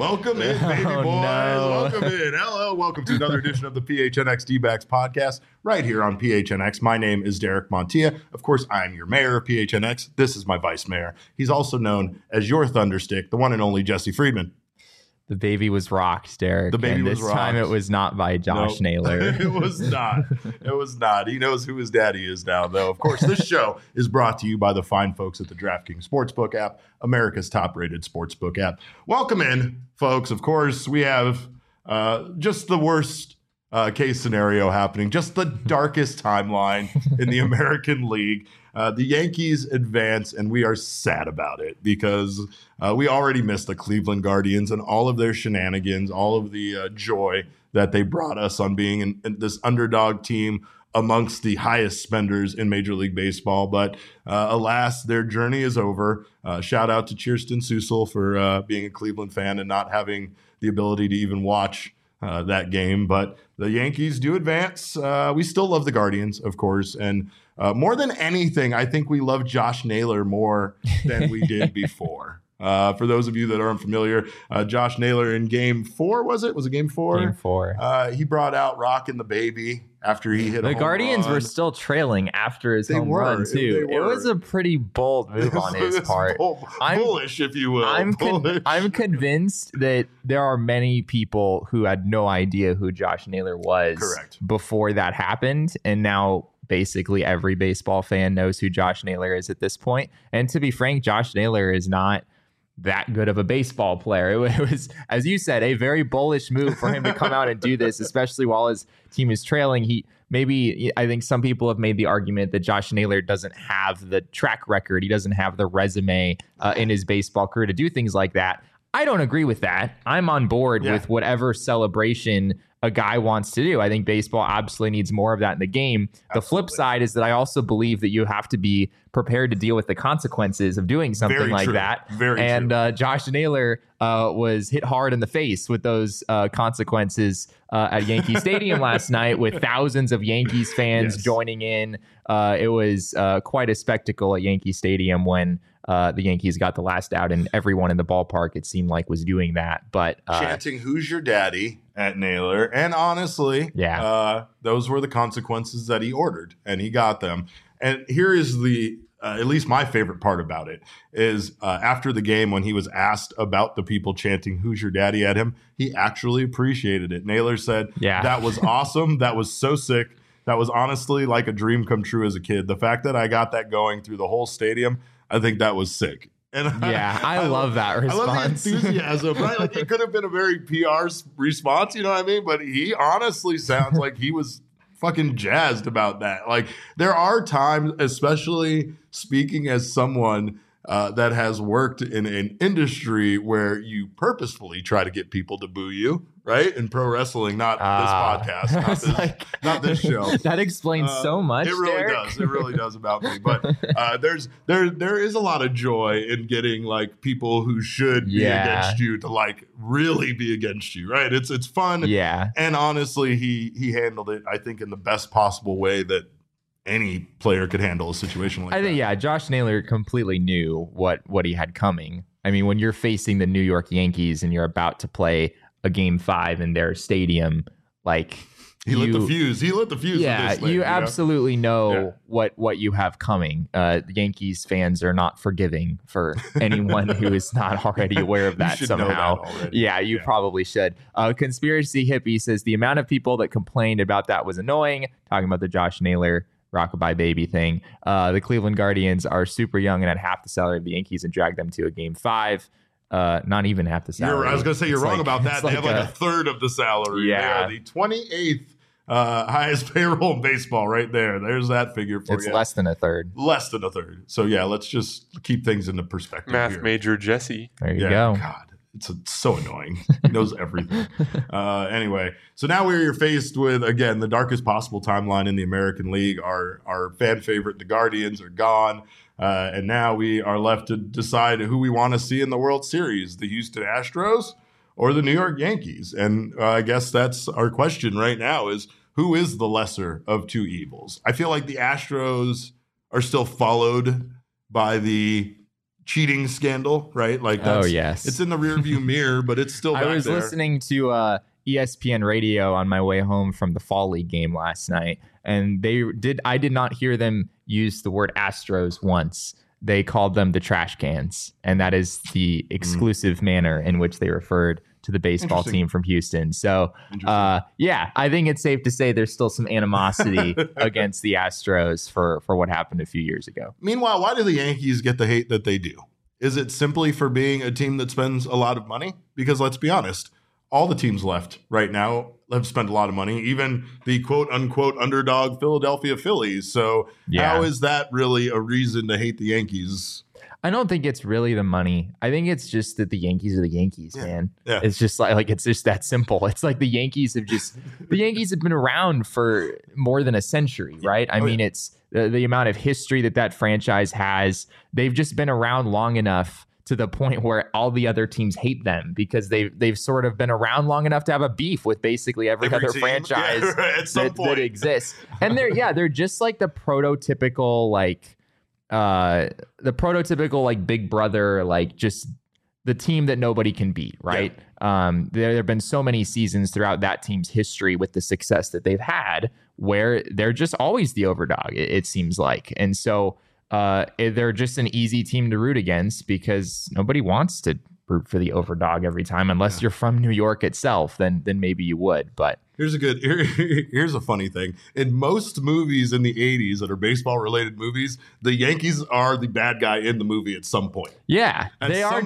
Welcome in, baby boys. No. Welcome in. Hello. Welcome to another edition of the PHNX D-Backs podcast right here on PHNX. My name is Derek Montilla. Of course, I'm your mayor of PHNX. This is my vice mayor. He's also known as your Thunderstick, the one and only Jesse Friedman. The baby was rocked, Derek. The baby and was this time rocked. it was not by Josh Naylor. It was not. It was not. He knows who his daddy is now, though. Of course, this show is brought to you by the fine folks at the DraftKings Sportsbook app, America's top-rated sportsbook app. Welcome in, folks. Of course, we have just the worst case scenario happening, just the darkest timeline in the American League. The Yankees advance, and we are sad about it because we already missed the Cleveland Guardians and all of their shenanigans, all of the joy that they brought us on being in this underdog team amongst the highest spenders in Major League Baseball. But alas, their journey is over. Shout out to Kirsten Susel for being a Cleveland fan and not having the ability to even watch that game. But the Yankees do advance. We still love the Guardians, of course, and more than anything, I think we love Josh Naylor more than we did before. For those of you that aren't familiar, Josh Naylor in Game 4, was it? Was it Game 4? Game 4. He brought out Rockin' the Baby after he hit a The home Guardians run. were still trailing after his home run, too. They It were. was a pretty bold move on his part. Bullish, if you will. I'm Bullish. convinced that there are many people who had no idea who Josh Naylor was Correct. before that happened, and now basically every baseball fan knows who Josh Naylor is at this point. And to be frank, Josh Naylor is not that good of a baseball player. It was, as you said, a very bullish move for him to come out and do this, especially while his team is trailing. I think some people have made the argument that Josh Naylor doesn't have the track record. He doesn't have the resume in his baseball career to do things like that. I don't agree with that. I'm on board with whatever celebration a guy wants to do. I think baseball absolutely needs more of that in the game. The flip side is that I also believe that you have to be prepared to deal with the consequences of doing something Very like true. that. Very and true. Josh Naylor was hit hard in the face with those consequences at Yankee Stadium last night, with thousands of Yankees fans joining in. It was quite a spectacle at Yankee Stadium when the Yankees got the last out, and everyone in the ballpark, it seemed like, was doing that. But chanting "Who's your daddy?" at Naylor, and honestly, those were the consequences that he ordered, and he got them. And here is the at least my favorite part about it is after the game, when he was asked about the people chanting "Who's your daddy?" at him, he actually appreciated it. Naylor said, "That was awesome. That was so sick. That was honestly like a dream come true as a kid. The fact that I got that going through the whole stadium, I think that was sick." And I love that response. I love the enthusiasm, right? Like, it could have been a very PR response, you know what I mean? But he honestly sounds like he was fucking jazzed about that. Like, there are times, especially speaking as someone that has worked in an industry where you purposefully try to get people to boo you, right? In pro wrestling, not this podcast, not this show. That explains so much. It really Derek. does. It really does about me. But there is a lot of joy in getting like people who should be against you to like really be against you, right? It's fun. Yeah. And honestly, he handled it, I think, in the best possible way that any player could handle a situation like that. I think, Josh Naylor completely knew what he had coming. I mean, when you're facing the New York Yankees and you're about to play a Game 5 in their stadium, like he lit the fuse. He lit the fuse. Yeah, with this thing, you know? Absolutely know what you have coming. The Yankees fans are not forgiving for anyone who is not already aware of that somehow. You probably should. Conspiracy Hippie says the amount of people that complained about that was annoying. Talking about the Josh Naylor Rockabye Baby thing. The Cleveland Guardians are super young and at half the salary of the Yankees and dragged them to a Game 5. Not even half the salary. I was going to say you're wrong about that. They have like a third of the salary. Yeah. They are the 28th highest payroll in baseball right there. There's that figure for you. It's less than a third. Less than a third. So, let's just keep things into perspective. Math major Jesse. There you go. God. It's so annoying. He knows everything. Anyway, so now we're faced with, again, the darkest possible timeline in the American League. Our fan favorite, the Guardians, are gone. And now we are left to decide who we want to see in the World Series, the Houston Astros or the New York Yankees. And I guess that's our question right now is, who is the lesser of two evils? I feel like the Astros are still followed by the cheating scandal, right? Like, that's, yes, it's in the rearview mirror, but it's still back I was there. listening to ESPN radio on my way home from the Fall League game last night, and I did not hear them use the word Astros once. They called them the trash cans, and that is the exclusive manner in which they referred to the baseball team from Houston. So, yeah, I think it's safe to say there's still some animosity against the Astros for what happened a few years ago. Meanwhile, why do the Yankees get the hate that they do? Is it simply for being a team that spends a lot of money? Because let's be honest, all the teams left right now have spent a lot of money, even the quote unquote underdog Philadelphia Phillies. So how is that really a reason to hate the Yankees? I don't think it's really the money. I think it's just that the Yankees are the Yankees, man. Yeah. It's just like it's just that simple. It's like the Yankees have been around for more than a century, right? I mean, it's the amount of history that franchise has. They've just been around long enough to the point where all the other teams hate them because they've sort of been around long enough to have a beef with basically every other team. franchise that exists. And they're just like the prototypical like big brother, like just the team that nobody can beat, right? There have been so many seasons throughout that team's history with the success that they've had where they're just always the overdog, it seems like. And so they're just an easy team to root against because nobody wants to root for the overdog every time unless you're from New York itself, then maybe you would. But here's a funny thing. In most movies in the 80s that are baseball related movies, the Yankees are the bad guy in the movie at some point. Yeah, they are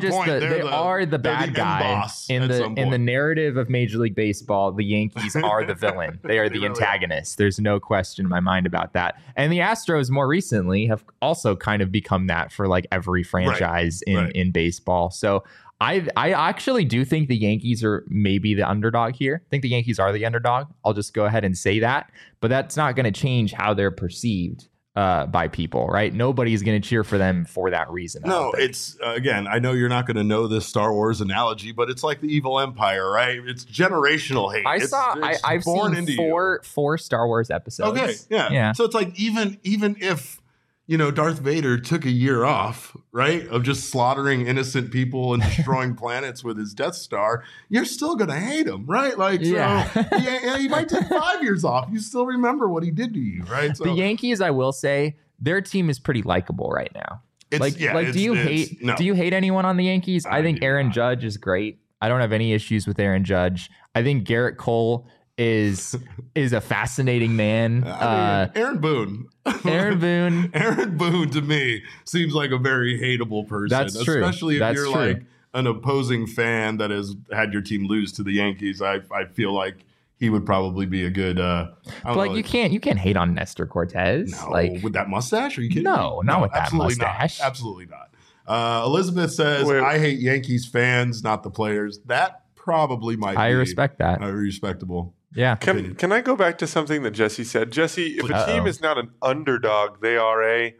the bad guy in the narrative of Major League Baseball. The Yankees are the villain. They are the antagonist. There's no question in my mind about that. And the Astros more recently have also kind of become that for like every franchise in baseball. So I actually do think the Yankees are maybe the underdog here. I think the Yankees are the underdog. I'll just go ahead and say that. But that's not going to change how they're perceived by people, right? Nobody's going to cheer for them for that reason. No, it's, again, I know you're not going to know this Star Wars analogy, but it's like the evil empire, right? It's generational hate. I've seen four Star Wars episodes. Okay, yeah. So it's like even if Darth Vader took a year off, right, of just slaughtering innocent people and destroying planets with his Death Star, you're still going to hate him, right? Like, he might take 5 years off. You still remember what he did to you, right? So, the Yankees, I will say, their team is pretty likable right now. Do you hate anyone on the Yankees? I think Aaron Judge is great. I don't have any issues with Aaron Judge. I think Garrett Cole is a fascinating man. Aaron Boone. Aaron Boone to me seems like a very hateable person. That's true. Especially if you're like an opposing fan that has had your team lose to the Yankees. I feel like he would probably be a good. You can't hate on Nestor Cortez. No, with that mustache? Are you kidding? No, not with that mustache. Absolutely not. Elizabeth says, I hate Yankees fans, not the players. That probably might be. I respect that. Respectable. Yeah. Can I go back to something that Jesse said? Jesse, if a team is not an underdog, they are a...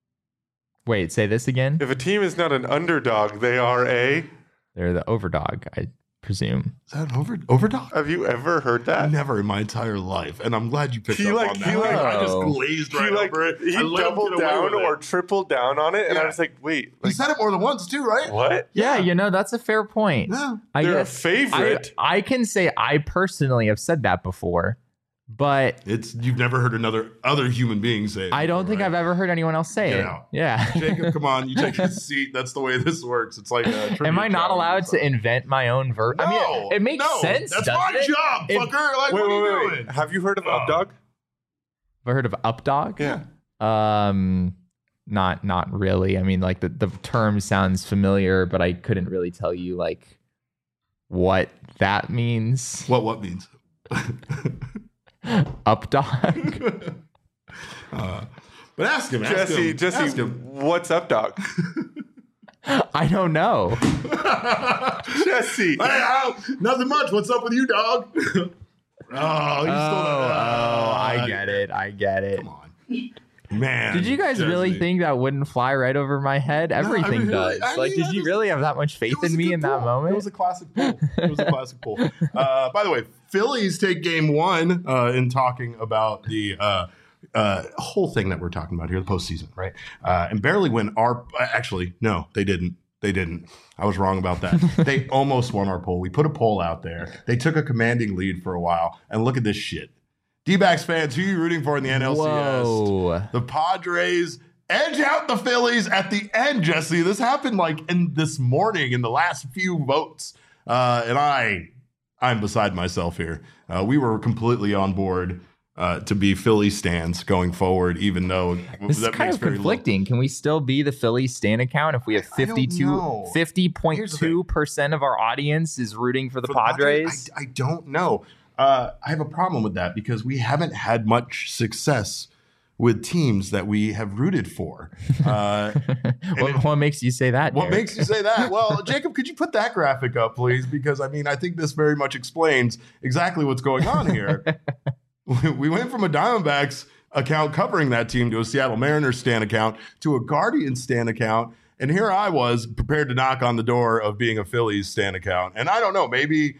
Wait, say this again? If a team is not an underdog, they are a... They're the overdog, I presume. Is that an overdog? Have you ever heard that? Never in my entire life. And I'm glad you picked up on that. I just glazed over it. He doubled down or tripled down on it. And I was like, wait. He said it more than once too, right? What? Yeah, that's a fair point. Yeah. They're a favorite. I can say I personally have said that before. But you've never heard other human being say it. I don't think I've ever heard anyone else say it. Out. Yeah. Jacob, come on. You take a seat. That's the way this works. It's like am I not allowed to invent my own verb? No, I mean, it makes sense. That's my job, fucker. Like, what are you doing? Have you heard of Updog? Have I heard of Updog? Yeah. Not really. I mean, like the term sounds familiar, but I couldn't really tell you like what that means. What means? Updog. But ask him, Jesse, what's Updog? I don't know. Jesse. Hey, nothing much. What's up with you, dog? I get it. Come on. Man. Did you guys really think that wouldn't fly right over my head? Everything does. Did you really have that much faith in me in that moment? It was a classic pull. By the way, Phillies take game one in talking about the whole thing that we're talking about here, the postseason, right? And barely win actually, no, they didn't. They didn't. I was wrong about that. They almost won our poll. We put a poll out there. They took a commanding lead for a while. And look at this shit. D-backs fans, who are you rooting for in the NLCS? Whoa. The Padres edge out the Phillies at the end, Jesse. This happened this morning in the last few votes. And I'm beside myself here. We were completely on board to be Philly stans going forward, even though this is kind of conflicting. Can we still be the Philly stan account if we have 50.2% of our audience is rooting for the Padres? I don't know. I have a problem with that because we haven't had much success with teams that we have rooted for. What makes you say that? What makes you say that? Well, Jacob, could you put that graphic up, please? Because I think this very much explains exactly what's going on here. We went from a Diamondbacks account covering that team to a Seattle Mariners stan account to a Guardians stan account. And here I was prepared to knock on the door of being a Phillies stan account. And I don't know, maybe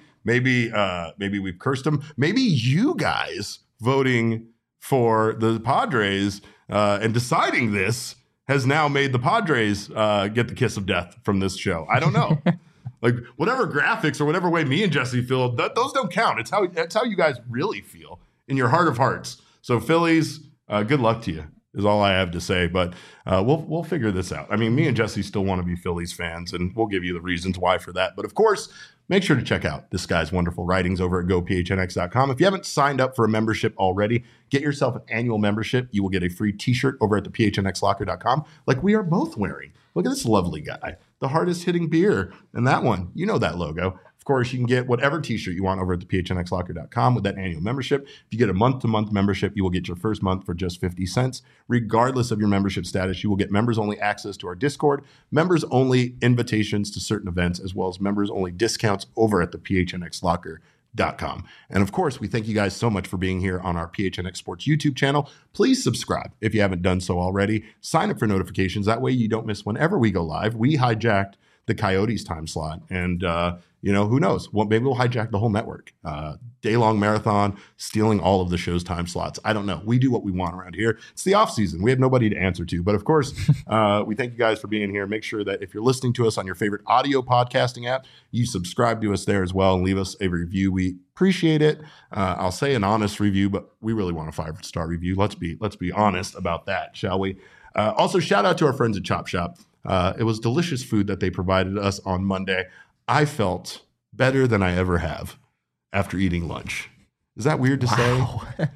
we've cursed them. Maybe you guys voting for the Padres and deciding this has now made the Padres get the kiss of death from this show. I don't know. Like whatever graphics or whatever way me and Jesse feel, those don't count. It's how you guys really feel in your heart of hearts. So Phillies, good luck to you is all I have to say. But we'll figure this out. I mean, me and Jesse still want to be Phillies fans, and we'll give you the reasons why for that. But of course, make sure to check out this guy's wonderful writings over at gophnx.com. If you haven't signed up for a membership already, get yourself an annual membership. You will get a free t-shirt over at the phnxlocker.com like we are both wearing. Look at this lovely guy, the hardest hitting beer. And that one, you know that logo. Of course, you can get whatever t-shirt you want over at the phnxlocker.com with that annual membership. If you get a month-to-month membership, you will get your first month for just 50 cents. Regardless of your membership status, you will get members-only access to our Discord, members-only invitations to certain events, as well as members-only discounts over at the phnxlocker.com. And of course, we thank you guys so much for being here on our PHNX Sports YouTube channel. Please subscribe if you haven't done so already. Sign up for notifications. That way you don't miss whenever we go live. We hijacked the Coyotes time slot. And, who knows? Well, maybe we'll hijack the whole network. Day-long marathon, stealing all of the show's time slots. I don't know. We do what we want around here. It's the off season. We have nobody to answer to. But of course, we thank you guys for being here. Make sure that if you're listening to us on your favorite audio podcasting app, you subscribe to us there as well and leave us a review. We appreciate it. I'll say an honest review, but we really want a 5-star review. Let's be honest about that, shall we? Also, shout out to our friends at Chop Shop. It was delicious food that they provided us on Monday. I felt better than I ever have after eating lunch. Is that weird to say?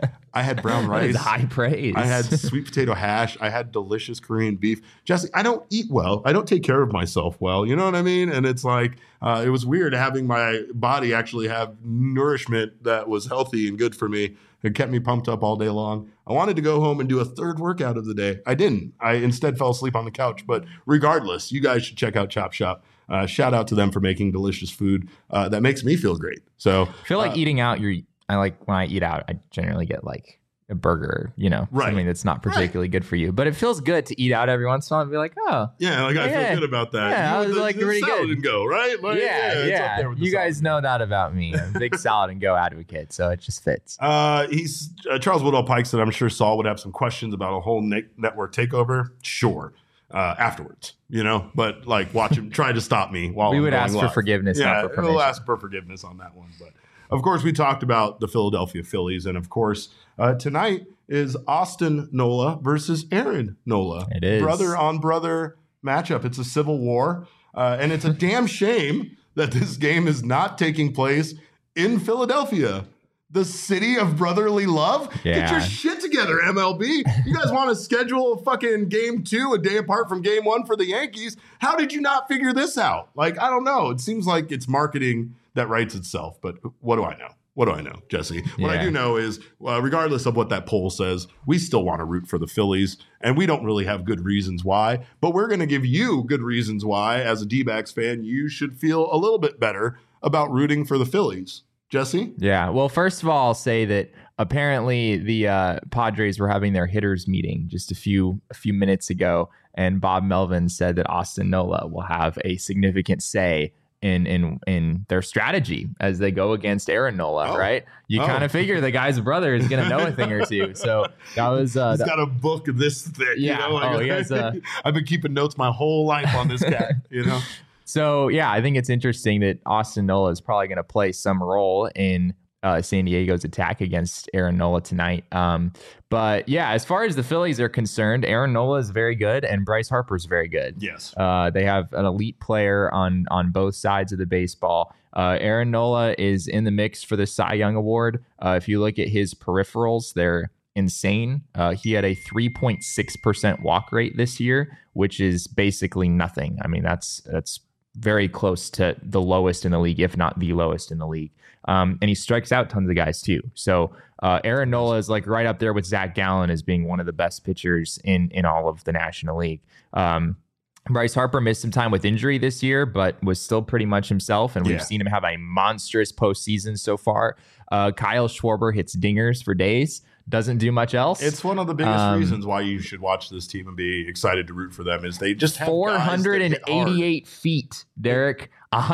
I had brown rice. That is high praise. I had sweet potato hash. I had delicious Korean beef. Jesse, I don't eat well. I don't take care of myself well. You know what I mean? And it's like, it was weird having my body actually have nourishment that was healthy and good for me. It kept me pumped up all day long. I wanted to go home and do a third workout of the day. I didn't. I instead fell asleep on the couch. But regardless, you guys should check out Chop Shop. Shout out to them for making delicious food that makes me feel great. So I feel like eating out, I like when I eat out, I generally get like a burger, something that's not particularly good for you. But it feels good to eat out every once in a while and be like, oh. Yeah, I feel good about that. Yeah, I was like really good. And go, right? Like, yeah. It's up there with you guys know that about me. I'm a big salad and go advocate, so it just fits. He's Charles Woodall Pikes that I'm sure Saul would have some questions about a whole network takeover. Sure. Afterwards, but like watch him try to stop me while we would I'm ask live. for forgiveness. Yeah, not for permission. we'll ask for forgiveness on that one. But of course, we talked about the Philadelphia Phillies, and of course, tonight is Austin Nola versus Aaron Nola. It is brother on brother matchup. It's a civil war, and it's a damn shame that this game is not taking place in Philadelphia. The city of brotherly love? Yeah. Get your shit together, MLB. You guys want to schedule a fucking game 2 a day apart from game 1 for the Yankees? How did you not figure this out? Like, I don't know. It seems like it's marketing that writes itself, but what do I know? What do I know, Jesse? What I do know is, regardless of what that poll says, we still want to root for the Phillies, and we don't really have good reasons why, but we're going to give you good reasons why, as a D-backs fan, you should feel a little bit better about rooting for the Phillies. Jesse? Yeah. Well, first of all, I'll say that apparently the Padres were having their hitters meeting just a few minutes ago, and Bob Melvin said that Austin Nola will have a significant say in their strategy as they go against Aaron Nola, right? You kind of figure the guy's brother is going to know a thing or two. So that was he's got a book this thick. Yeah. You know? He has I've been keeping notes my whole life on this cat. You know. So yeah, I think it's interesting that Austin Nola is probably going to play some role in San Diego's attack against Aaron Nola tonight. But yeah, as far as the Phillies are concerned, Aaron Nola is very good and Bryce Harper is very good. Yes. They have an elite player on both sides of the baseball. Aaron Nola is in the mix for the Cy Young Award. If you look at his peripherals, they're insane. He had a 3.6% walk rate this year, which is basically nothing. I mean, that's very close to the lowest in the league, if not the lowest in the league. And he strikes out tons of guys too. So Aaron Nola is like right up there with Zach Gallen as being one of the best pitchers in all of the National League. Bryce Harper missed some time with injury this year, but was still pretty much himself. And we've seen him have a monstrous postseason so far. Kyle Schwarber hits dingers for days. Doesn't do much else. It's one of the biggest reasons why you should watch this team and be excited to root for them is they just have 488 feet, Derek,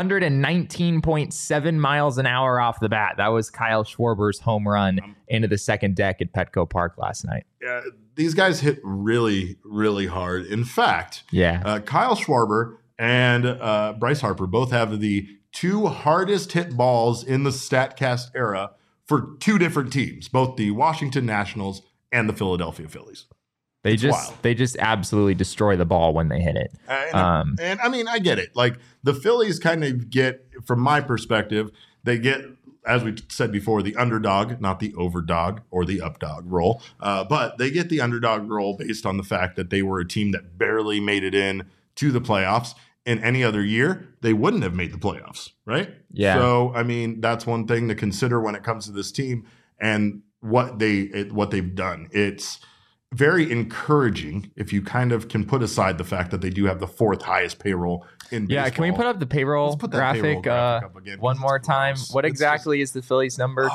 119.7 miles an hour off the bat. That was Kyle Schwarber's home run into the second deck at Petco Park last night. Yeah, these guys hit really, really hard. In fact, Kyle Schwarber and Bryce Harper both have the two hardest hit balls in the StatCast era for two different teams, both the Washington Nationals and the Philadelphia Phillies. They just absolutely destroy the ball when they hit it. And I mean, I get it. Like the Phillies kind of get, from my perspective, they get, as we said before, the underdog, not the overdog or the updog role. But they get the underdog role based on the fact that they were a team that barely made it in to the playoffs. In any other year, they wouldn't have made the playoffs, right? Yeah. So, I mean, that's one thing to consider when it comes to this team and what they've done. It's very encouraging if you kind of can put aside the fact that they do have the fourth highest payroll in baseball. Yeah, can we put up the payroll graphic up again, one more time? What exactly is the Phillies number?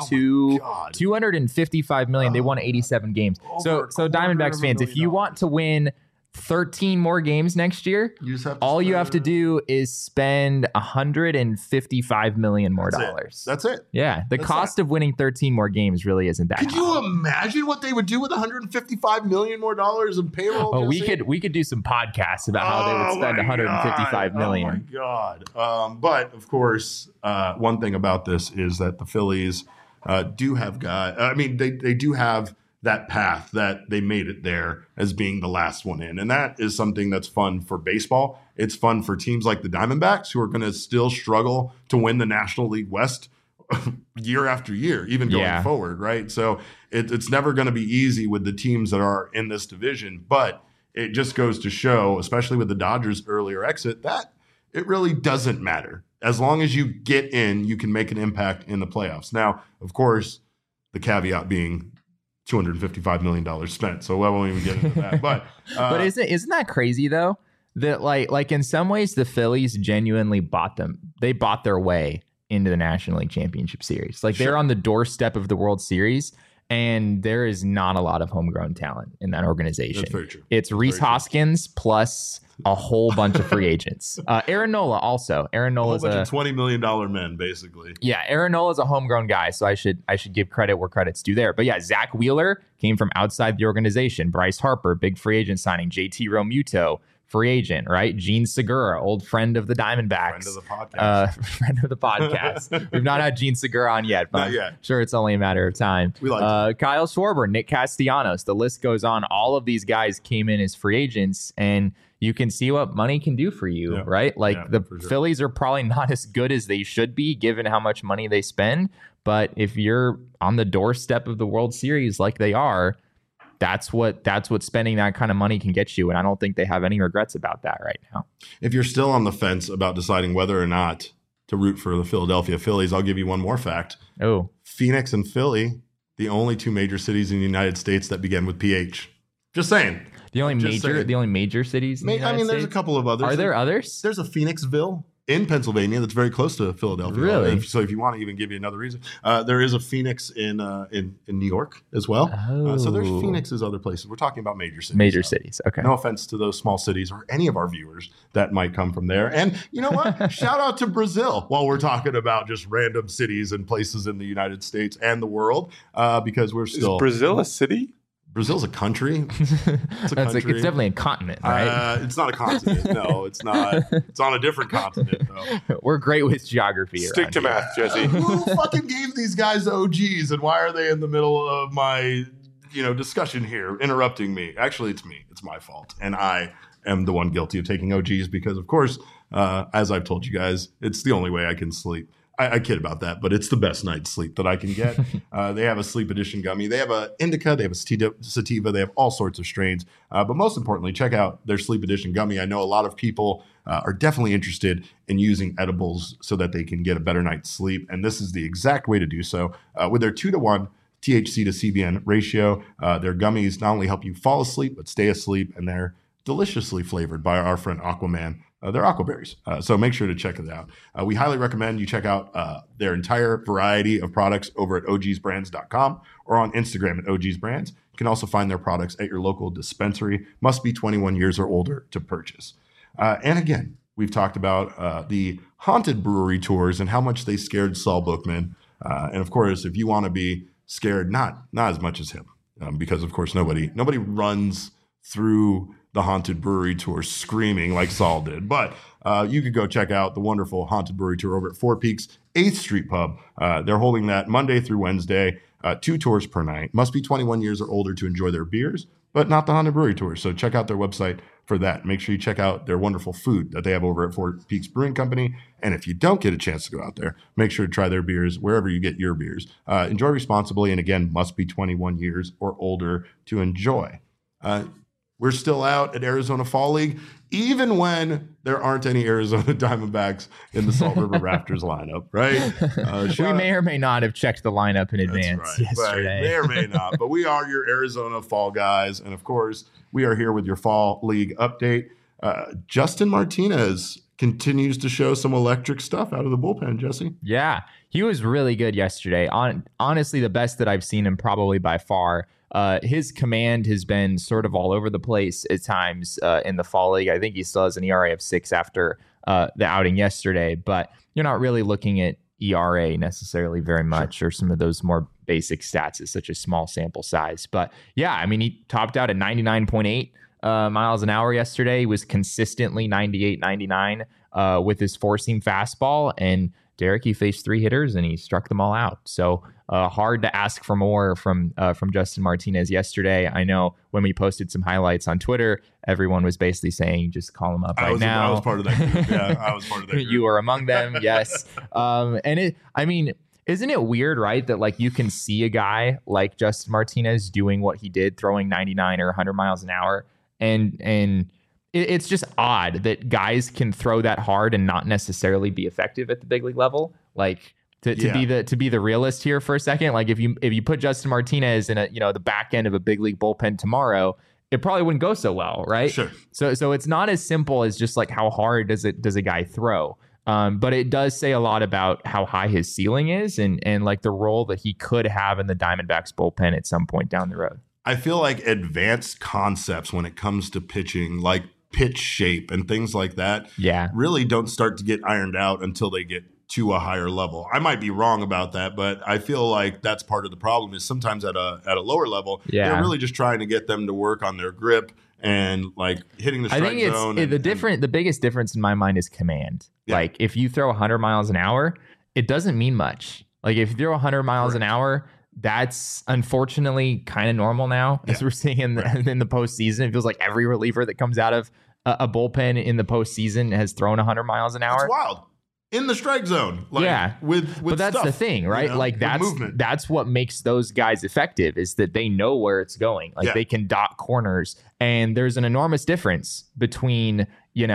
255 million. They won 87 games. So Diamondbacks fans, if you want to win 13 more games next year, you have to do is spend $155 million more dollars. That's it. Yeah. The cost of winning 13 more games really isn't that high. Could you imagine what they would do with $155 million more dollars in payroll? Oh, we could do some podcasts about how they would spend $155 million. Oh my God. But of course, one thing about this is that the Phillies do have they do have that path that they made it there as being the last one in. And that is something that's fun for baseball. It's fun for teams like the Diamondbacks who are going to still struggle to win the National League West year after year, even going forward, right? So it's never going to be easy with the teams that are in this division, but it just goes to show, especially with the Dodgers' earlier exit, that it really doesn't matter. As long as you get in, you can make an impact in the playoffs. Now, of course, the caveat being $255 million spent, so I won't even get into that. But isn't that crazy though? That like in some ways the Phillies genuinely bought their way into the National League Championship Series. Like they're on the doorstep of the World Series, and there is not a lot of homegrown talent in that organization. That's very true. It's Rhys Hoskins plus a whole bunch of free agents. Aaron Nola also. Aaron Nola is a $20 million men, basically. Yeah, Aaron Nola is a homegrown guy, so I should give credit where credit's due there. But yeah, Zach Wheeler came from outside the organization. Bryce Harper, big free agent signing. JT Realmuto, free agent, right? Gene Segura, old friend of the Diamondbacks. Friend of the podcast. We've not had Gene Segura on yet, but I'm sure it's only a matter of time. We like Kyle Schwarber, Nick Castellanos, the list goes on. All of these guys came in as free agents, and you can see what money can do for you, right? Like the Phillies are probably not as good as they should be given how much money they spend. But if you're on the doorstep of the World Series like they are, that's what spending that kind of money can get you. And I don't think they have any regrets about that right now. If you're still on the fence about deciding whether or not to root for the Philadelphia Phillies, I'll give you one more fact. Oh, Phoenix and Philly, the only two major cities in the United States that begin with PH. Just saying. The only major cities. There's a couple of others. Are there others? There's a Phoenixville in Pennsylvania that's very close to Philadelphia. Really? So if you want to even give you another reason, there is a Phoenix in New York as well. So there's Phoenixes other places. We're talking about major cities. Major cities. Okay. No offense to those small cities or any of our viewers that might come from there. And you know what? Shout out to Brazil while we're talking about just random cities and places in the United States and the world, because we're still. Is Brazil a city? Brazil's a country. It's definitely a continent, right? It's not a continent. No, it's not. It's on a different continent, though. We're great with geography. Stick to math, Jesse. Who fucking gave these guys OGs, and why are they in the middle of my, discussion here, interrupting me? Actually, it's me. It's my fault, and I am the one guilty of taking OGs because, of course, as I've told you guys, it's the only way I can sleep. I kid about that, but it's the best night's sleep that I can get. They have a sleep edition gummy. They have a indica. They have a sativa. They have all sorts of strains. But most importantly, check out their sleep edition gummy. I know a lot of people are definitely interested in using edibles so that they can get a better night's sleep. And this is the exact way to do so. With their 2-to-1 THC to CBN ratio, their gummies not only help you fall asleep, but stay asleep. And they're deliciously flavored by our friend Aquaman. They're aquaberries. So make sure to check it out. We highly recommend you check out their entire variety of products over at ogsbrands.com or on Instagram at ogsbrands. You can also find their products at your local dispensary. Must be 21 years or older to purchase. And again, we've talked about the haunted brewery tours and how much they scared Saul Bookman. And of course, if you want to be scared, not as much as him, because of course nobody runs through the haunted brewery tour screaming like Saul did. But you could go check out the wonderful haunted brewery tour over at Four Peaks 8th Street Pub. They're holding that Monday through Wednesday, 2 tours per night. Must be 21 years or older to enjoy their beers, but not the haunted brewery tour. So check out their website for that. Make sure you check out their wonderful food that they have over at Four Peaks Brewing Company. And if you don't get a chance to go out there, make sure to try their beers wherever you get your beers. Enjoy responsibly. And again, must be 21 years or older to enjoy. We're still out at Arizona Fall League, even when there aren't any Arizona Diamondbacks in the Salt River Raptors lineup, right? We may or may not have checked the lineup in advance yesterday. May or may not, but we are your Arizona Fall guys. And of course, we are here with your Fall League update. Justin Martinez continues to show some electric stuff out of the bullpen, Jesse. Yeah, he was really good yesterday. Honestly, the best that I've seen him probably by far. His command has been sort of all over the place at times in the Fall League. I think he still has an ERA of 6 after the outing yesterday, but you're not really looking at ERA necessarily very much, or some of those more basic stats as such a small sample size. But yeah, I mean, he topped out at 99.8 miles an hour yesterday. He was consistently 98, 99 with his four-seam fastball. And Derek, he faced 3 hitters and he struck them all out. So hard to ask for more from Justin Martinez yesterday. I know when we posted some highlights on Twitter, everyone was basically saying, just call him up now. I was part of that group. Yeah, I was part of that group. You were among them, yes. Isn't it weird, right, that like you can see a guy like Justin Martinez doing what he did, throwing 99 or 100 miles an hour, and it's just odd that guys can throw that hard and not necessarily be effective at the big league level. Like to be the realist here for a second, like if you put Justin Martinez in the back end of a big league bullpen tomorrow, it probably wouldn't go so well, right? Sure. So it's not as simple as just like how hard does a guy throw. But it does say a lot about how high his ceiling is and like the role that he could have in the Diamondbacks bullpen at some point down the road. I feel like advanced concepts when it comes to pitching, like pitch shape and things like that, really don't start to get ironed out until they get to a higher level. I might be wrong about that, but I feel like that's part of the problem is sometimes at a lower level, they're really just trying to get them to work on their grip and like hitting the strike zone. The biggest difference in my mind is command. Yeah. Like if you throw 100 miles an hour, it doesn't mean much. Like if you throw 100 miles an hour, that's unfortunately kind of normal now, as we're seeing in the postseason. It feels like every reliever that comes out of a bullpen in the postseason has thrown 100 miles an hour. It's wild. In the strike zone. Like, but that's stuff, the thing, right? Like that's what makes those guys effective is that they know where it's going. Like they can dot corners. And there's an enormous difference between,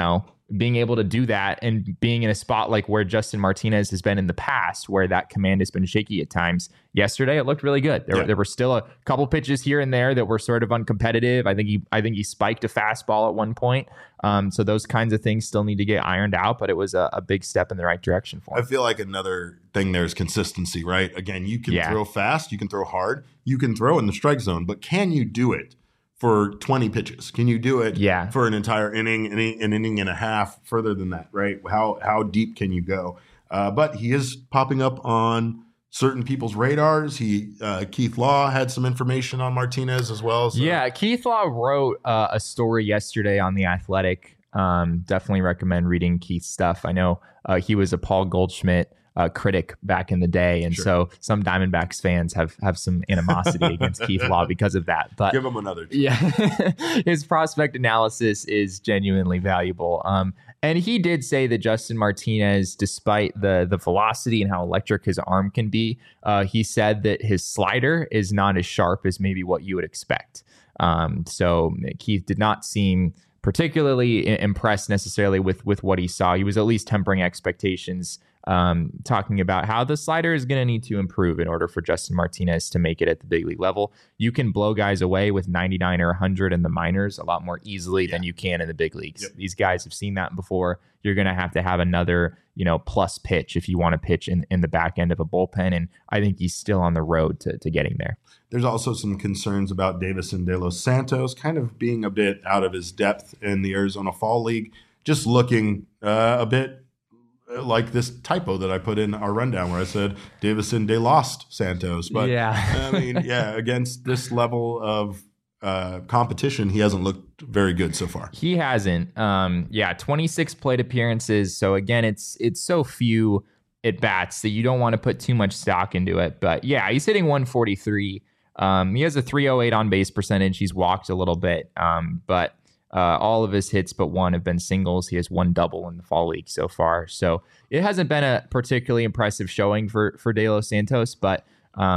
being able to do that and being in a spot like where Justin Martinez has been in the past, where that command has been shaky at times. Yesterday, it looked really good. There were still a couple pitches here and there that were sort of uncompetitive. I think he spiked a fastball at one point. So those kinds of things still need to get ironed out, but it was a big step in the right direction for him. I feel like another thing there is consistency, right? Again, you can throw fast, you can throw hard, you can throw in the strike zone, but can you do it for 20 pitches? Can you do it for an entire inning, an inning and a half, further than that, right? How deep can you go? But he is popping up on certain people's radars. Keith Law had some information on Martinez as well. So. Yeah, Keith Law wrote a story yesterday on The Athletic. Definitely recommend reading Keith's stuff. I know he was a Paul Goldschmidt critic back in the day, and so some Diamondbacks fans have some animosity against Keith Law because of that. But give him another chance. Yeah, his prospect analysis is genuinely valuable. And he did say that Justin Martinez, despite the velocity and how electric his arm can be, he said that his slider is not as sharp as maybe what you would expect. So Keith did not seem particularly impressed necessarily with what he saw. He was at least tempering expectations, talking about how the slider is going to need to improve in order for Justin Martinez to make it at the big league level. You can blow guys away with 99 or 100 in the minors a lot more easily than you can in the big leagues. Yep. These guys have seen that before. You're going to have another, plus pitch if you want to pitch in the back end of a bullpen. And I think he's still on the road to getting there. There's also some concerns about Davison De Los Santos kind of being a bit out of his depth in the Arizona Fall League, just looking a bit like this typo that I put in our rundown where I said Davison De Los Santos. But against this level of competition, he hasn't looked very good so far. He hasn't. 26 plate appearances. So again, it's so few at bats that you don't want to put too much stock into it. But yeah, he's hitting 143. He has a 308 on base percentage. He's walked a little bit, but all of his hits but one have been singles. He has one double in the Fall League so far. So it hasn't been a particularly impressive showing for De Los Santos, but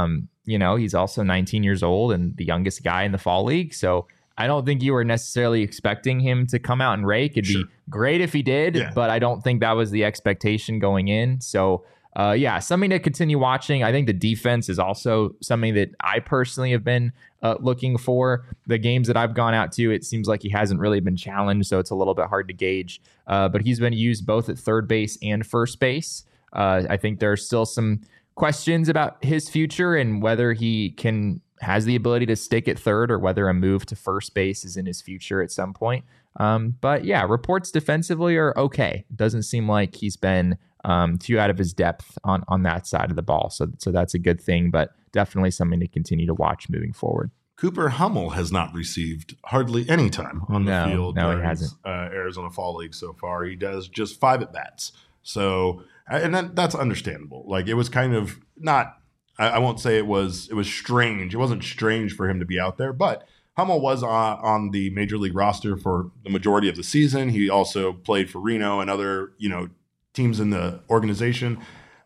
he's also 19 years old and the youngest guy in the Fall League. So I don't think you were necessarily expecting him to come out and rake. It'd be great if he did, but I don't think that was the expectation going in. So something to continue watching. I think the defense is also something that I personally have been looking for. The games that I've gone out to, it seems like he hasn't really been challenged, so it's a little bit hard to gauge. But he's been used both at third base and first base. I think there are still some questions about his future and whether he has the ability to stick at third or whether a move to first base is in his future at some point. But reports defensively are okay. Doesn't seem like he's been too out of his depth on that side of the ball. So that's a good thing, but definitely something to continue to watch moving forward. Cooper Hummel has not received hardly any time on the field. No, he hasn't. Arizona Fall League so far. He does just 5 at-bats. So, and that's understandable. Like, it was kind of not, I won't say it was strange. It wasn't strange for him to be out there, but Hummel was on the Major League roster for the majority of the season. He also played for Reno and other, teams in the organization.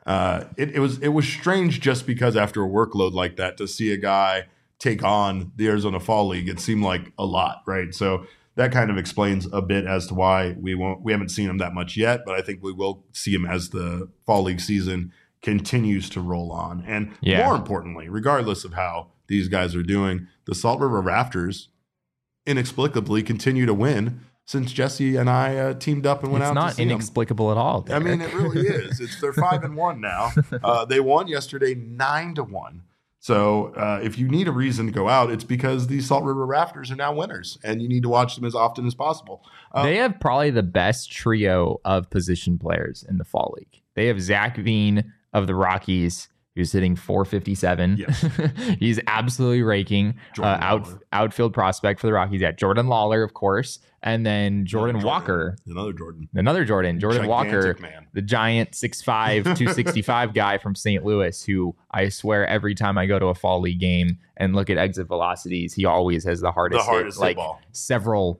It was strange just because after a workload like that to see a guy take on the Arizona Fall League, it seemed like a lot, right? So that kind of explains a bit as to why we haven't seen him that much yet, but I think we will see him as the Fall League season continues to roll on. And more importantly, regardless of how these guys are doing, the Salt River Rafters inexplicably continue to win since Jesse and I teamed up and went out to see them. It's not inexplicable at all, Derek. I mean, it really is. They're 5-1 now. They won yesterday 9-1. So if you need a reason to go out, it's because the Salt River Rafters are now winners, and you need to watch them as often as possible. They have probably the best trio of position players in the Fall League. They have Zach Veen of the Rockies, who's hitting 457. Yes. He's absolutely raking. Outfield prospect for the Rockies. Yeah, Jordan Lawler, of course. And then Jordan Walker. Another Jordan. Jordan Walker, man. The giant 6'5", 265 guy from St. Louis, who I swear every time I go to a Fall League game and look at exit velocities, he always has the hardest hit ball. Several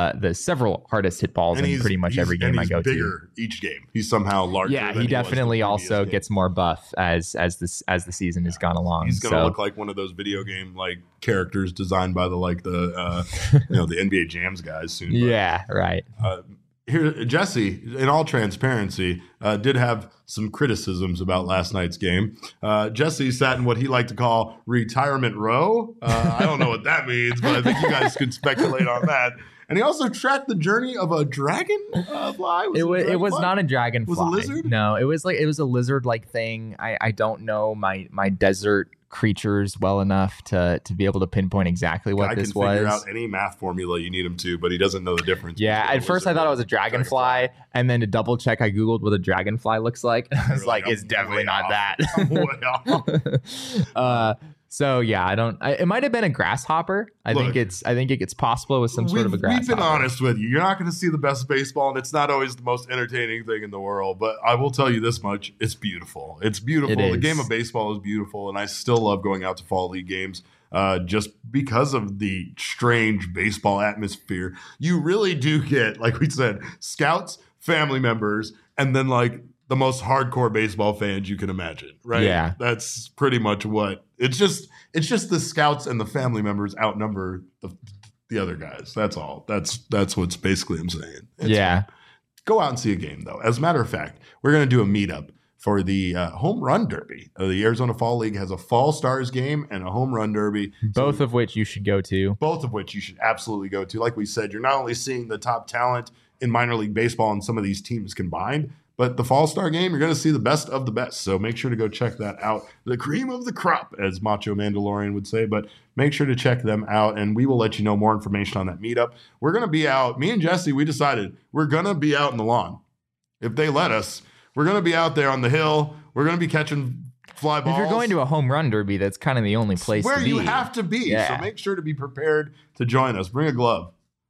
hardest hit balls in pretty much every game I go to. He's bigger each game. He's somehow larger. Yeah, he definitely also gets more buff as the season has gone along. He's going to look like one of those video game characters designed by the NBA Jams guys soon. Yeah, right. here, Jesse, in all transparency, did have some criticisms about last night's game. Jesse sat in what he liked to call retirement row. I don't know what that means, but I think you guys could speculate on that. And he also tracked the journey of a dragonfly. It was not a dragonfly. Was it a lizard? No, it was a lizard-like thing. I don't know my desert creatures well enough to be able to pinpoint exactly what this was. I can figure out any math formula you need him to, but he doesn't know the difference. Yeah, at first I thought it was a dragonfly, and then to double check, I googled what a dragonfly looks like. I was like, it's definitely not that. So yeah, it might have been a grasshopper. I think it's possible with some sort of a grasshopper. We've been honest with you. You're not going to see the best baseball, and it's not always the most entertaining thing in the world. But I will tell you this much: it's beautiful. It's beautiful. The game of baseball is beautiful, and I still love going out to fall league games. Just because of the strange baseball atmosphere, you really do get, like we said, scouts, family members, and then like the most hardcore baseball fans you can imagine, right? Yeah. That's pretty much what it's just the scouts and the family members outnumber the other guys. That's all. That's what's basically I'm saying. Yeah. Go out and see a game though. As a matter of fact, we're going to do a meetup for the home run derby. The Arizona Fall League has a Fall Stars game and a home run derby. Both of which you should go to. Both of which you should absolutely go to. Like we said, you're not only seeing the top talent in minor league baseball and some of these teams combined, but the Fall Star game, you're going to see the best of the best. So make sure to go check that out. The cream of the crop, as Macho Mandalorian would say. But make sure to check them out, and we will let you know more information on that meetup. We're going to be out. Me and Jesse, we decided we're going to be out in the lawn. If they let us, we're going to be out there on the hill. We're going to be catching fly balls. If you're going to a home run derby, that's kind of the only place where to be. you have to be. Yeah. So make sure to be prepared to join us. Bring a glove.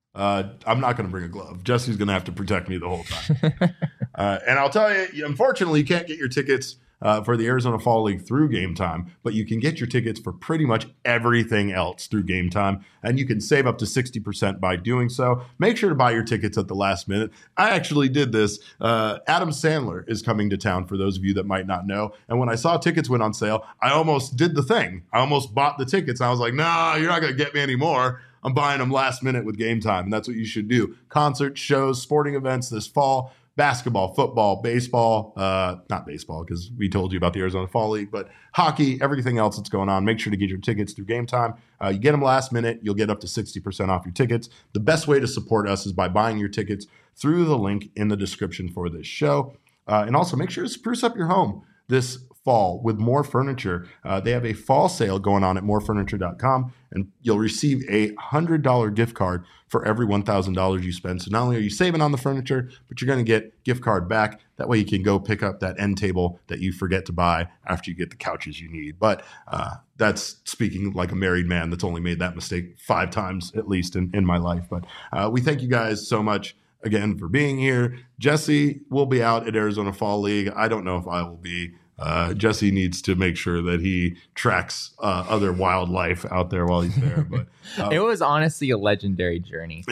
I'm not going to bring a glove. Jesse's going to have to protect me the whole time. And I'll tell you, unfortunately, you can't get your tickets for the Arizona Fall League through Game Time, but you can get your tickets for pretty much everything else through Game Time, and you can save up to 60% by doing so. Make sure to buy your tickets at the last minute. I actually did this. Adam Sandler is coming to town, for those of you that might not know, and when I saw tickets went on sale, I almost did the thing. I almost bought the tickets. I was like, nah, you're not going to get me anymore. I'm buying them last minute with Game Time, and that's what you should do. Concerts, shows, sporting events this fall, basketball, football, baseball, not baseball because we told you about the Arizona Fall League, but hockey, everything else that's going on. Make sure to get your tickets through Game Time. You get them last minute, you'll get up to 60% off your tickets. The best way to support us is by buying your tickets through the link in the description for this show. And also make sure to spruce up your home this fall with More Furniture. They have a fall sale going on at morefurniture.com, and you'll receive a $100 gift card for every $1,000 you spend. So not only are you saving on the furniture, but you're going to get gift card back. That way you can go pick up that end table that you forget to buy after you get the couches you need. But that's speaking like a married man that's only made that mistake 5 times at least in my life. But we thank you guys so much again for being here. Jesse will be out at Arizona Fall League. I don't know if I will be. Jesse needs to make sure that he tracks other wildlife out there while he's there. But it was honestly a legendary journey.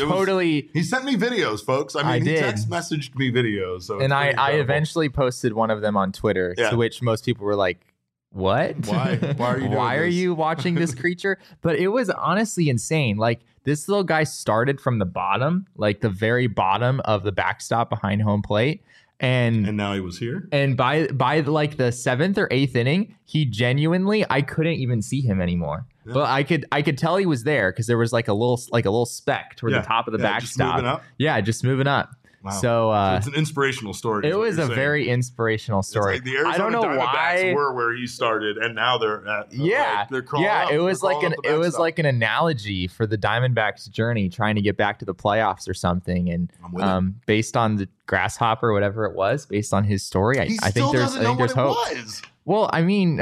He sent me videos, folks. I mean, he text messaged me videos. So and I eventually posted one of them on Twitter, to which most people were like, what? Why are you watching this creature? But it was honestly insane. Like, this little guy started from the bottom, like the very bottom of the backstop behind home plate. And now he was here. And by like the 7th or 8th inning, he genuinely, I couldn't even see him anymore. Yeah. But I could tell he was there because there was like a little speck toward the top of the backstop. Just moving up. Wow. So it's an inspirational story. It was a very inspirational story. Like the Arizona I don't know why were where he started, and now they're at. They're crawling up. It was like an analogy for the Diamondbacks' journey, trying to get back to the playoffs or something. And based on the grasshopper, whatever it was, based on his story, I think there's hope. Well, I mean,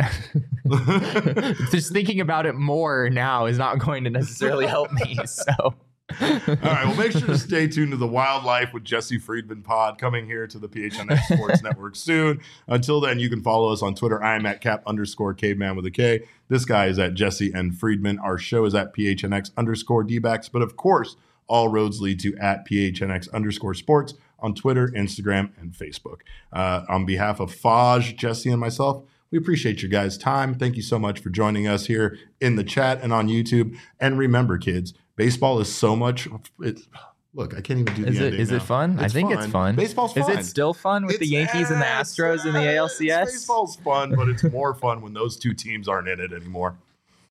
just thinking about it more now is not going to necessarily help me. So. All right, well, make sure to stay tuned to the Wildlife with Jesse Friedman pod coming here to the PHNX Sports Network soon. Until then, you can follow us on Twitter. I am at Cap_caveman with a K. This guy is at Jesse and Friedman. Our show is at PHNX_DBacks. But of course, all roads lead to at PHNX_sports on Twitter, Instagram, and Facebook. On behalf of Faj, Jesse, and myself, we appreciate your guys' time. Thank you so much for joining us here in the chat and on YouTube. And remember, kids, baseball is so much. Look, I can't even do the ending Is now. it fun? I think it's fun. Baseball's fun. Is it still fun with the Yankees and the Astros in the ALCS? Baseball's fun, but it's more fun when those two teams aren't in it anymore.